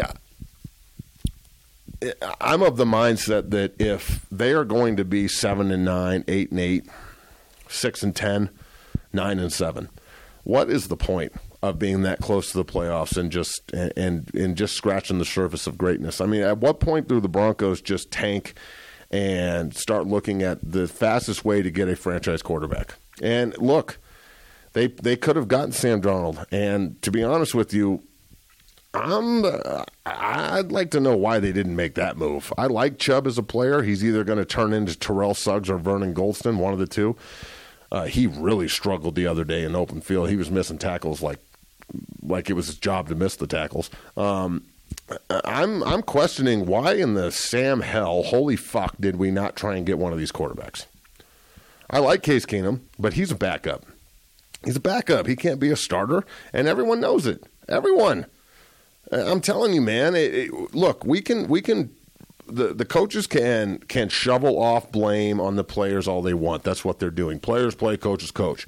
I'm of the mindset that if they are going to be seven and nine, eight and eight, six and ten, nine and seven, what is the point of being that close to the playoffs and just and, and and just scratching the surface of greatness? I mean, at what point do the Broncos just tank and start looking at the fastest way to get a franchise quarterback? And look, they they could have gotten Sam Darnold, and to be honest with you, I'm uh, I'd like to know why they didn't make that move. I like Chubb as a player. He's either going to turn into Terrell Suggs or Vernon Goldston, one of the two. Uh, he really struggled the other day in open field. He was missing tackles like like it was his job to miss the tackles. Um, I'm I'm questioning why in the Sam hell, holy fuck, did we not try and get one of these quarterbacks? I like Case Keenum, but he's a backup. He's a backup. He can't be a starter, and everyone knows it. Everyone. I'm telling you, man. It, it, look, we can we can. The, the coaches can can shovel off blame on the players all they want. That's what they're doing. Players play, coaches coach.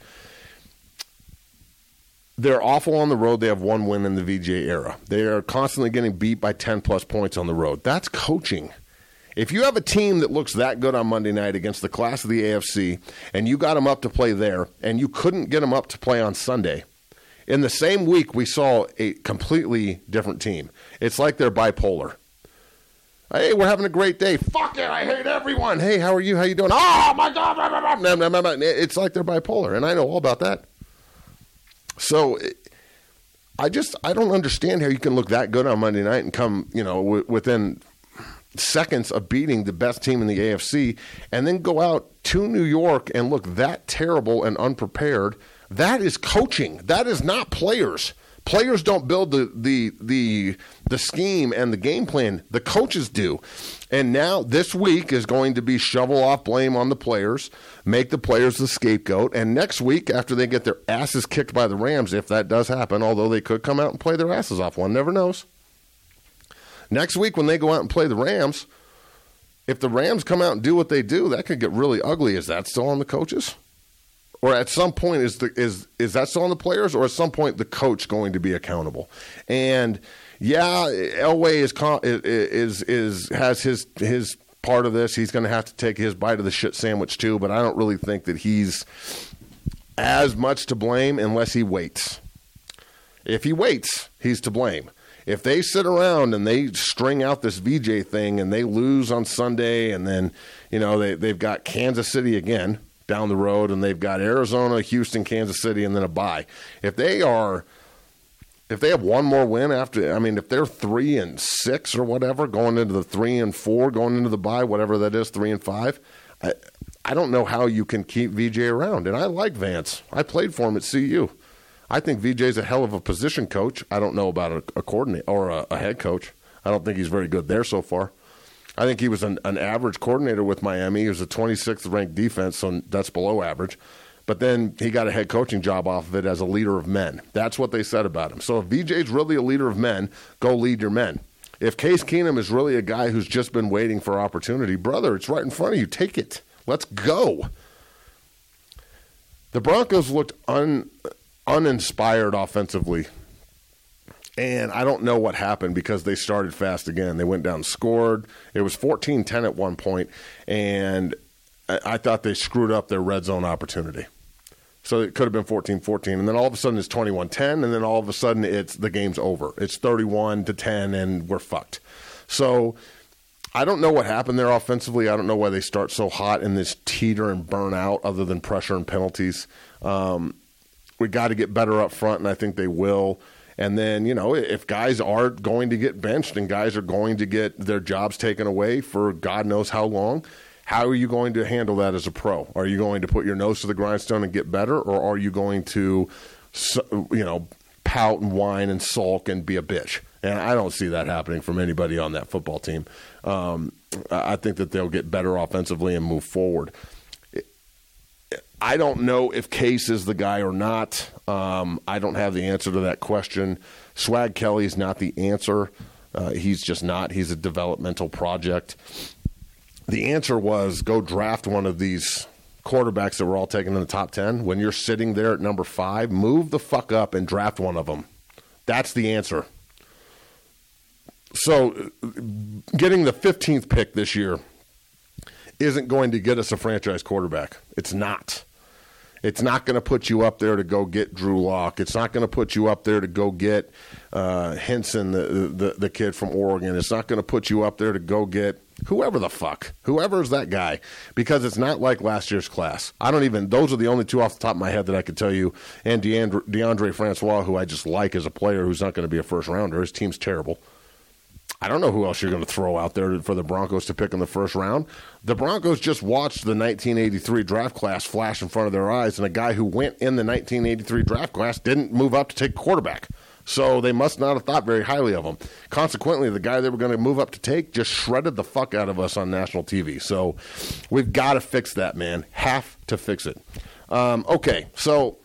They're awful on the road. They have one win in the V J era. They are constantly getting beat by ten-plus points on the road. That's coaching. If you have a team that looks that good on Monday night against the class of the A F C, and you got them up to play there, and you couldn't get them up to play on Sunday, in the same week we saw a completely different team. It's like they're bipolar. Hey, we're having a great day. Fuck it, I hate everyone. Hey, how are you? How you doing? Oh, my God. It's like they're bipolar, and I know all about that. So I just I don't understand how you can look that good on Monday night and come, you know, w- within seconds of beating the best team in the A F C and then go out to New York and look that terrible and unprepared. That is coaching. That is not players. Players don't build the, the the the scheme and the game plan. The coaches do. And now this week is going to be shovel off blame on the players, make the players the scapegoat. And next week, after they get their asses kicked by the Rams, if that does happen, although they could come out and play their asses off, one never knows. Next week when they go out and play the Rams, if the Rams come out and do what they do, that could get really ugly. Is that still on the coaches? Or at some point, is the is is that still on the players? Or at some point, the coach going to be accountable? And yeah, Elway is is is has his his part of this. He's going to have to take his bite of the shit sandwich too. But I don't really think that he's as much to blame unless he waits. If he waits, he's to blame. If they sit around and they string out this V J thing and they lose on Sunday, and then you know they they've got Kansas City again down the road, and they've got Arizona, Houston, Kansas City, and then a bye. If they are, if they have one more win after, I mean, if they're three and six or whatever, going into the three and four, going into the bye, whatever that is, three and five, I, I don't know how you can keep V J around. And I like Vance. I played for him at C U. I think V J's a hell of a position coach. I don't know about a, a coordinator or a, a head coach. I don't think he's very good there so far. I think he was an, an average coordinator with Miami. He was a twenty-sixth ranked defense, so that's below average. But then he got a head coaching job off of it as a leader of men. That's what they said about him. So if V J's really a leader of men, go lead your men. If Case Keenum is really a guy who's just been waiting for opportunity, brother, it's right in front of you. Take it. Let's go. The Broncos looked un, uninspired offensively. And I don't know what happened because they started fast again. They went down, scored. It was fourteen ten at one point, and I thought they screwed up their red zone opportunity. So it could have been fourteen fourteen, and then all of a sudden it's twenty-one ten, and then all of a sudden it's the game's over. It's thirty-one to ten, and we're fucked. So I don't know what happened there offensively. I don't know why they start so hot in this teeter and burn out other than pressure and penalties. Um, we got to get better up front, and I think they will. And then, you know, if guys are going to get benched and guys are going to get their jobs taken away for God knows how long, how are you going to handle that as a pro? Are you going to put your nose to the grindstone and get better, or are you going to, you know, pout and whine and sulk and be a bitch? And I don't see that happening from anybody on that football team. Um, I think that they'll get better offensively and move forward. I don't know if Case is the guy or not. Um, I don't have the answer to that question. Swag Kelly's not the answer. Uh, he's just not. He's a developmental project. The answer was go draft one of these quarterbacks that were all taken in the top ten. When you're sitting there at number five, move the fuck up and draft one of them. That's the answer. So getting the fifteenth pick this year isn't going to get us a franchise quarterback. It's not. It's not going to put you up there to go get Drew Lock. It's not going to put you up there to go get uh, Henson, the, the the kid from Oregon. It's not going to put you up there to go get whoever the fuck, whoever's that guy, because it's not like last year's class. I don't even, those are the only two off the top of my head that I could tell you. And DeAndre, DeAndre Francois, who I just like as a player who's not going to be a first rounder. His team's terrible. I don't know who else you're going to throw out there for the Broncos to pick in the first round. The Broncos just watched the nineteen eighty-three draft class flash in front of their eyes, and a guy who went in the nineteen eighty-three draft class didn't move up to take quarterback. So they must not have thought very highly of him. Consequently, the guy they were going to move up to take just shredded the fuck out of us on national T V. So we've got to fix that, man. Have to fix it. Um, okay, so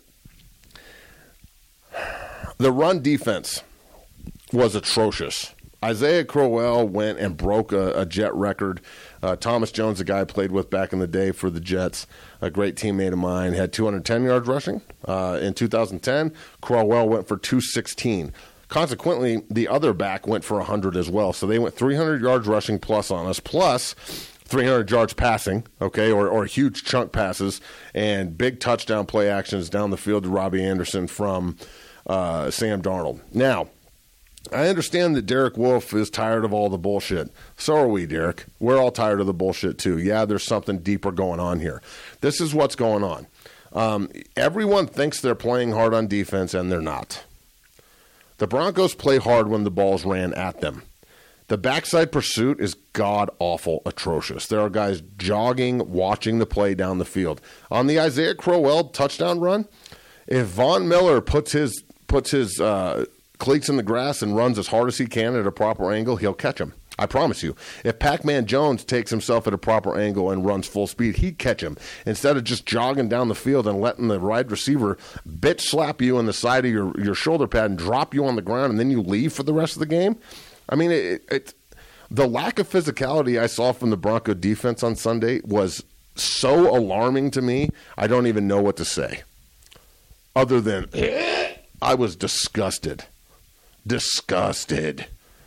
the run defense was atrocious. Isaiah Crowell went and broke a, a Jet record. Uh, Thomas Jones, the guy I played with back in the day for the Jets, a great teammate of mine, had two hundred ten yards rushing uh, in two thousand ten. Crowell went for two sixteen. Consequently, the other back went for one hundred as well. So they went three hundred yards rushing plus on us, plus three hundred yards passing, okay, or, or huge chunk passes, and big touchdown play actions down the field to Robbie Anderson from uh, Sam Darnold. Now, I understand that Derek Wolfe is tired of all the bullshit. So are we, Derek. We're all tired of the bullshit, too. Yeah, there's something deeper going on here. This is what's going on. Um, everyone thinks they're playing hard on defense, and they're not. The Broncos play hard when the ball's ran at them. The backside pursuit is god-awful atrocious. There are guys jogging, watching the play down the field. On the Isaiah Crowell touchdown run, if Von Miller puts his puts his uh, cleats in the grass and runs as hard as he can at a proper angle, he'll catch him. I promise you. If Pac-Man Jones takes himself at a proper angle and runs full speed, he'd catch him. Instead of just jogging down the field and letting the wide receiver bitch slap you in the side of your, your shoulder pad and drop you on the ground and then you leave for the rest of the game. I mean, it, it, the lack of physicality I saw from the Bronco defense on Sunday was so alarming to me, I don't even know what to say. Other than, I was disgusted. Disgusted.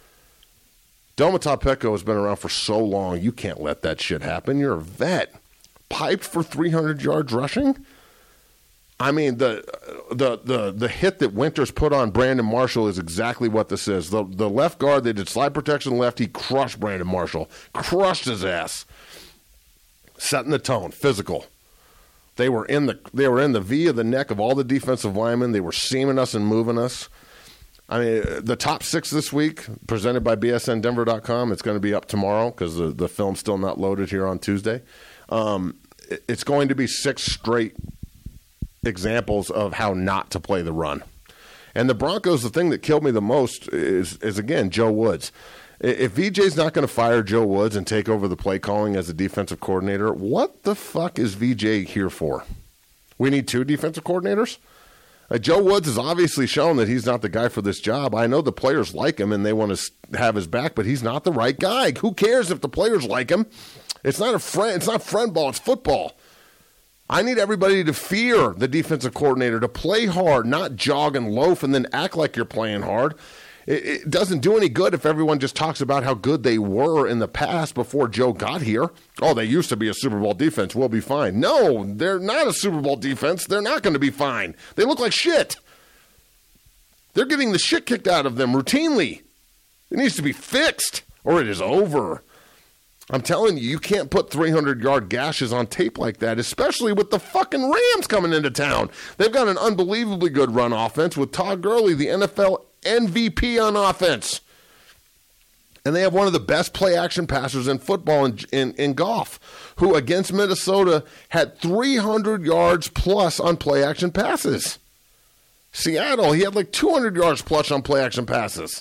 Domata Peko has been around for so long, you can't let that shit happen. You're a vet. Piped for three hundred yards rushing? I mean, the the the the hit that Winters put on Brandon Marshall is exactly what this is. The the left guard, they did slide protection left. He crushed Brandon Marshall. Crushed his ass. Setting the tone. Physical. They were in the they were in the V of the neck of all the defensive linemen. They were seaming us and moving us. I mean, the top six this week, presented by B S N Denver dot com. It's going to be up tomorrow because the, the film's still not loaded here on Tuesday. Um, it's going to be six straight examples of how not to play the run. And the Broncos, the thing that killed me the most is, is again, Joe Woods. If V J's not going to fire Joe Woods and take over the play calling as a defensive coordinator, what the fuck is V J here for? We need two defensive coordinators? Uh, Joe Woods has obviously shown that he's not the guy for this job. I know the players like him and they want to have his back, but he's not the right guy. Who cares if the players like him? It's not a friend. It's not friend ball. It's football. I need everybody to fear the defensive coordinator, to play hard, not jog and loaf and then act like you're playing hard. It, it doesn't do any good if everyone just talks about how good they were in the past before Joe got here. Oh, they used to be a Super Bowl defense. We'll be fine. No, they're not a Super Bowl defense. They're not going to be fine. They look like shit. They're getting the shit kicked out of them routinely. It needs to be fixed or it is over. I'm telling you, you can't put three hundred yard gashes on tape like that, especially with the fucking Rams coming into town. They've got an unbelievably good run offense with Todd Gurley, the N F L M V P on offense. And they have one of the best play-action passers in football in, in, in Goff, who against Minnesota had three hundred yards plus on play-action passes. Seattle, he had like two hundred yards plus on play-action passes.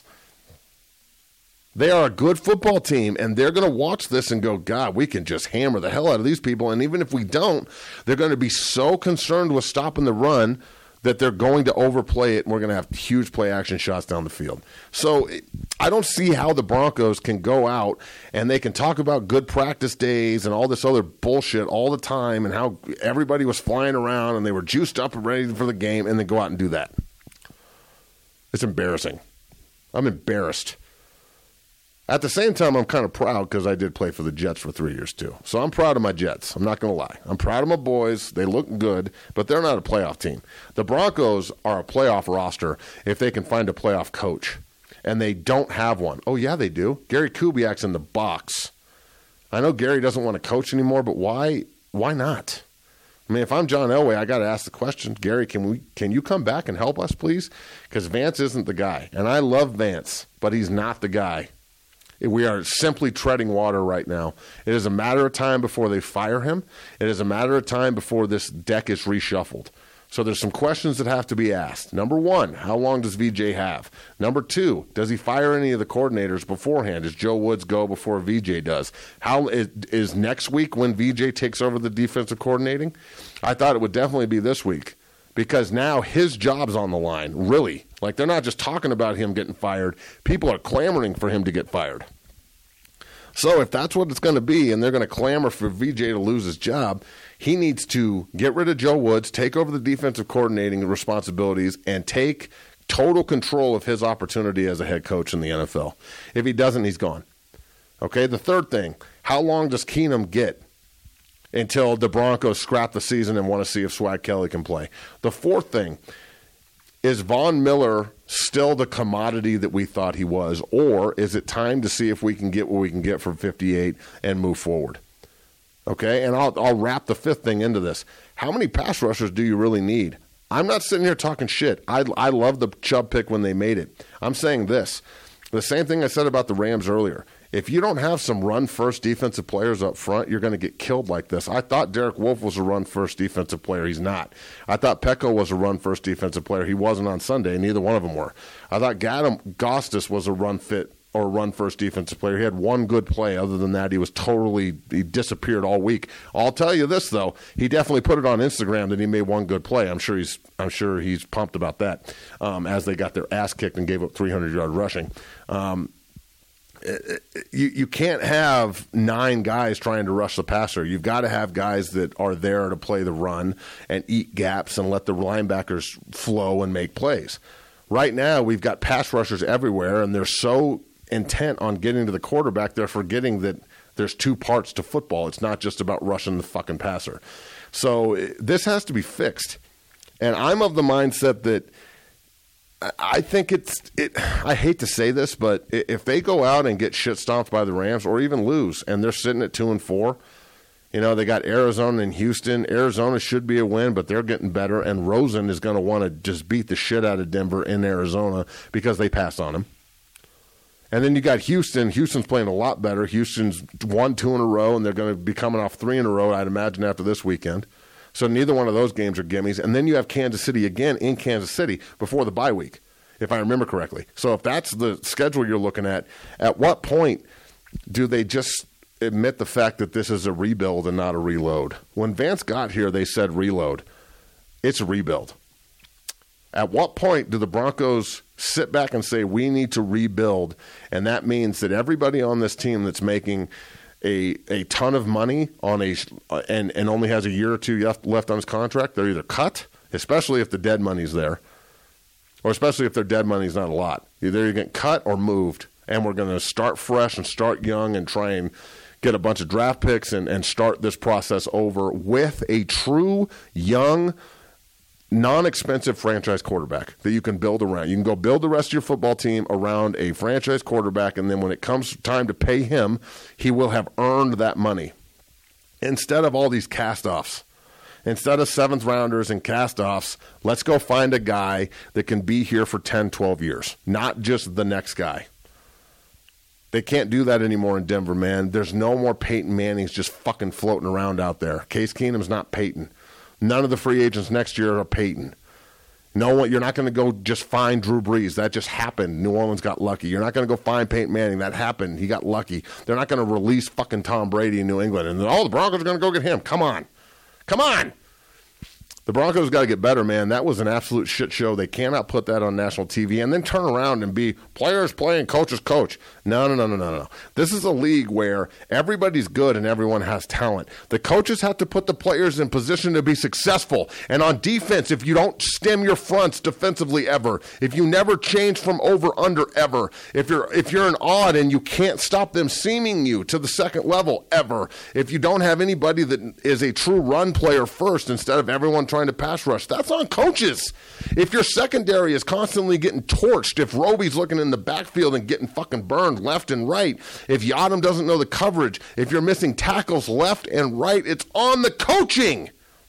They are a good football team, and they're going to watch this and go, God, we can just hammer the hell out of these people. And even if we don't, they're going to be so concerned with stopping the run that they're going to overplay it, and we're going to have huge play-action shots down the field. So I don't see how the Broncos can go out and they can talk about good practice days and all this other bullshit all the time and how everybody was flying around and they were juiced up and ready for the game and then go out and do that. It's embarrassing. I'm embarrassed. At the same time, I'm kind of proud because I did play for the Jets for three years too. So I'm proud of my Jets. I'm not going to lie. I'm proud of my boys. They look good, but they're not a playoff team. The Broncos are a playoff roster if they can find a playoff coach, and they don't have one. Oh, yeah, they do. Gary Kubiak's in the box. I know Gary doesn't want to coach anymore, but why Why not? I mean, if I'm John Elway, I got to ask the question, Gary, can we can you come back and help us, please? Because Vance isn't the guy, and I love Vance, but he's not the guy. We are simply treading water right now. It is a matter of time before they fire him. It is a matter of time before this deck is reshuffled. So there's some questions that have to be asked. Number one, how long does V J have? Number two, does he fire any of the coordinators beforehand? Does Joe Woods go before V J does? How is, is next week when V J takes over the defensive coordinating? I thought it would definitely be this week. Because now his job's on the line, really. Like, they're not just talking about him getting fired. People are clamoring for him to get fired. So if that's what it's going to be, and they're going to clamor for V J to lose his job, he needs to get rid of Joe Woods, take over the defensive coordinating responsibilities, and take total control of his opportunity as a head coach in the N F L. If he doesn't, he's gone. Okay, the third thing, how long does Keenum get until the Broncos scrap the season and want to see if Swag Kelly can play? The fourth thing, is Von Miller still the commodity that we thought he was, or is it time to see if we can get what we can get from fifty-eight and move forward? Okay, and I'll, I'll wrap the fifth thing into this. How many pass rushers do you really need? I'm not sitting here talking shit. I, I love the Chubb pick when they made it. I'm saying this. The same thing I said about the Rams earlier. If you don't have some run-first defensive players up front, you're going to get killed like this. I thought Derek Wolfe was a run-first defensive player. He's not. I thought Pecco was a run-first defensive player. He wasn't on Sunday, and neither one of them were. I thought Gadam Gostis was a run-fit or run-first defensive player. He had one good play. Other than that, he was totally – he disappeared all week. I'll tell you this, though. He definitely put it on Instagram that he made one good play. I'm sure he's I'm sure he's pumped about that um, as they got their ass kicked and gave up three hundred yard rushing. Um You you can't have nine guys trying to rush the passer. You've got to have guys that are there to play the run and eat gaps and let the linebackers flow and make plays. Right now, we've got pass rushers everywhere, and they're so intent on getting to the quarterback, they're forgetting that there's two parts to football. It's not just about rushing the fucking passer. So this has to be fixed. And I'm of the mindset that I think it's it. I hate to say this, but if they go out and get shit stomped by the Rams or even lose, and they're sitting at two and four, you know they got Arizona and Houston. Arizona should be a win, but they're getting better, and Rosen is going to want to just beat the shit out of Denver in Arizona because they passed on him. And then you got Houston. Houston's playing a lot better. Houston's won two in a row, and they're going to be coming off three in a row, I'd imagine, after this weekend. So neither one of those games are gimmies. And then you have Kansas City again in Kansas City before the bye week, if I remember correctly. So if that's the schedule you're looking at, at what point do they just admit the fact that this is a rebuild and not a reload? When Vance got here, they said reload. It's a rebuild. At what point do the Broncos sit back and say, we need to rebuild, and that means that everybody on this team that's making a a ton of money on a and, and only has a year or two left, left on his contract, they're either cut, especially if the dead money's there, or especially if their dead money's not a lot. Either you're getting cut or moved, and we're going to start fresh and start young and try and get a bunch of draft picks and, and start this process over with a true young non-expensive franchise quarterback that you can build around. You can go build the rest of your football team around a franchise quarterback, and then when it comes time to pay him, he will have earned that money instead of all these cast-offs. Instead of seventh rounders and cast-offs, let's go find a guy that can be here for ten, twelve years, not just the next guy. They can't do that anymore in Denver, man. There's no more Peyton Mannings just fucking floating around out there. Case Keenum's not Peyton. None of the free agents next year are Peyton. No one, you're not going to go just find Drew Brees. That just happened. New Orleans got lucky. You're not going to go find Peyton Manning. That happened. He got lucky. They're not going to release fucking Tom Brady in New England. And oh, the Broncos are going to go get him. Come on. Come on. The Broncos got to get better, man. That was an absolute shit show. They cannot put that on national T V and then turn around and be players playing, coaches coach. No, no, no, no, no, no. This is a league where everybody's good and everyone has talent. The coaches have to put the players in position to be successful. And on defense, if you don't stem your fronts defensively ever, if you never change from over under ever, if you're if you're an odd and you can't stop them seaming you to the second level ever, if you don't have anybody that is a true run player first instead of everyone trying to pass rush, that's on coaches. If your secondary is constantly getting torched, if Roby's looking in the backfield and getting fucking burned left and right, if Yadam doesn't know the coverage, if you're missing tackles left and right, it's on the coaching.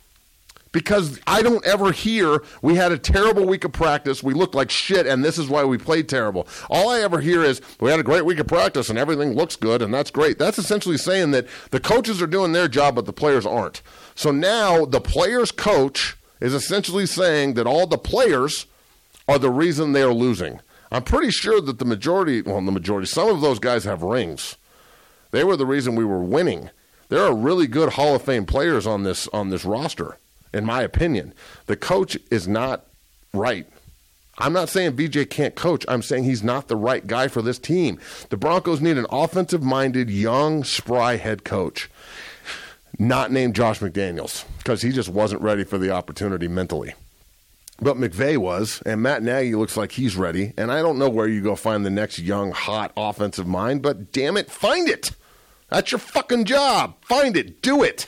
Because I don't ever hear, we had a terrible week of practice, we looked like shit, and this is why we played terrible. All I ever hear is, we had a great week of practice, and everything looks good, and that's great. That's essentially saying that the coaches are doing their job, but the players aren't. So now the players' coach is essentially saying that all the players are the reason they are losing. I'm pretty sure that the majority, well, the majority, some of those guys have rings. They were the reason we were winning. There are really good Hall of Fame players on this on this roster, in my opinion. The coach is not right. I'm not saying V J can't coach. I'm saying he's not the right guy for this team. The Broncos need an offensive-minded, young, spry head coach, not named Josh McDaniels, because he just wasn't ready for the opportunity mentally. But McVay was, and Matt Nagy looks like he's ready, and I don't know where you go find the next young, hot offensive mind, but damn it, find it. That's your fucking job. Find it. Do it.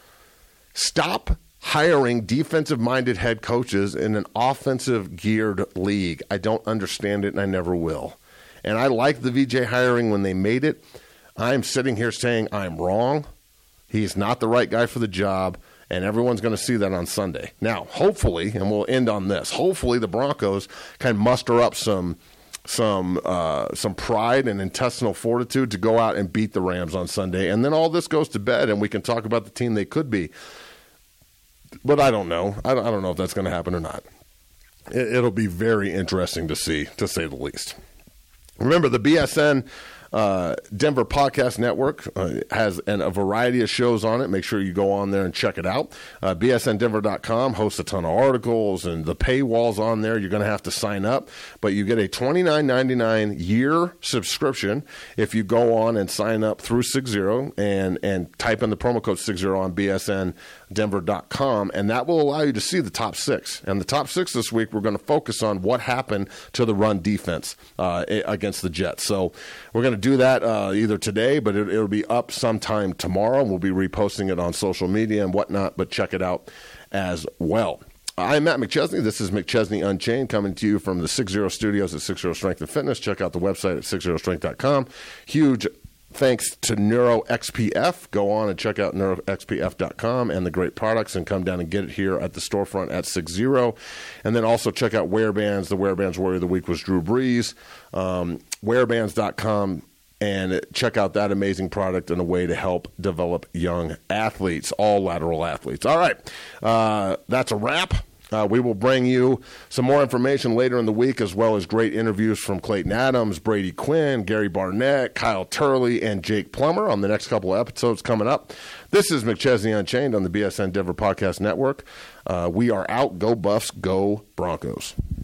Stop hiring defensive-minded head coaches in an offensive-geared league. I don't understand it, and I never will. And I like the V J hiring when they made it. I'm sitting here saying I'm wrong. He's not the right guy for the job, and everyone's going to see that on Sunday. Now, hopefully, and we'll end on this, hopefully the Broncos can muster up some some uh, some pride and intestinal fortitude to go out and beat the Rams on Sunday, and then all this goes to bed, and we can talk about the team they could be. But I don't know. I don't, I don't know if that's going to happen or not. It, it'll be very interesting to see, to say the least. Remember, the B S N Uh, Denver Podcast Network uh, has an, a variety of shows on it. Make sure you go on there and check it out. Uh, B S N Denver dot com hosts a ton of articles, and the paywall's on there. You're going to have to sign up, but you get a twenty-nine ninety-nine year subscription if you go on and sign up through six zero and, and type in the promo code six zero on B S N Denver dot com, and that will allow you to see the top six. And the top six this week, we're going to focus on what happened to the run defense uh, against the Jets. So we're going to do that uh, either today, but it, it'll be up sometime tomorrow. We'll be reposting it on social media and whatnot, but check it out as well. I'm Matt McChesney. This is McChesney Unchained, coming to you from the six zero studios at six zero Strength and Fitness. Check out the website at six zero strength dot com. Huge thanks to NeuroXPF. Go on and check out neuro x p f dot com and the great products, and come down and get it here at the storefront at six zero. And then also check out Wearbands. The Wearbands Warrior of the Week was Drew Brees. Um, wearbands dot com. And check out that amazing product and a way to help develop young athletes, all lateral athletes. All right, uh, that's a wrap. Uh, we will bring you some more information later in the week, as well as great interviews from Clayton Adams, Brady Quinn, Gary Barnett, Kyle Turley, and Jake Plummer on the next couple of episodes coming up. This is McChesney Unchained on the B S N Denver Podcast Network. Uh, we are out. Go Buffs, go Broncos.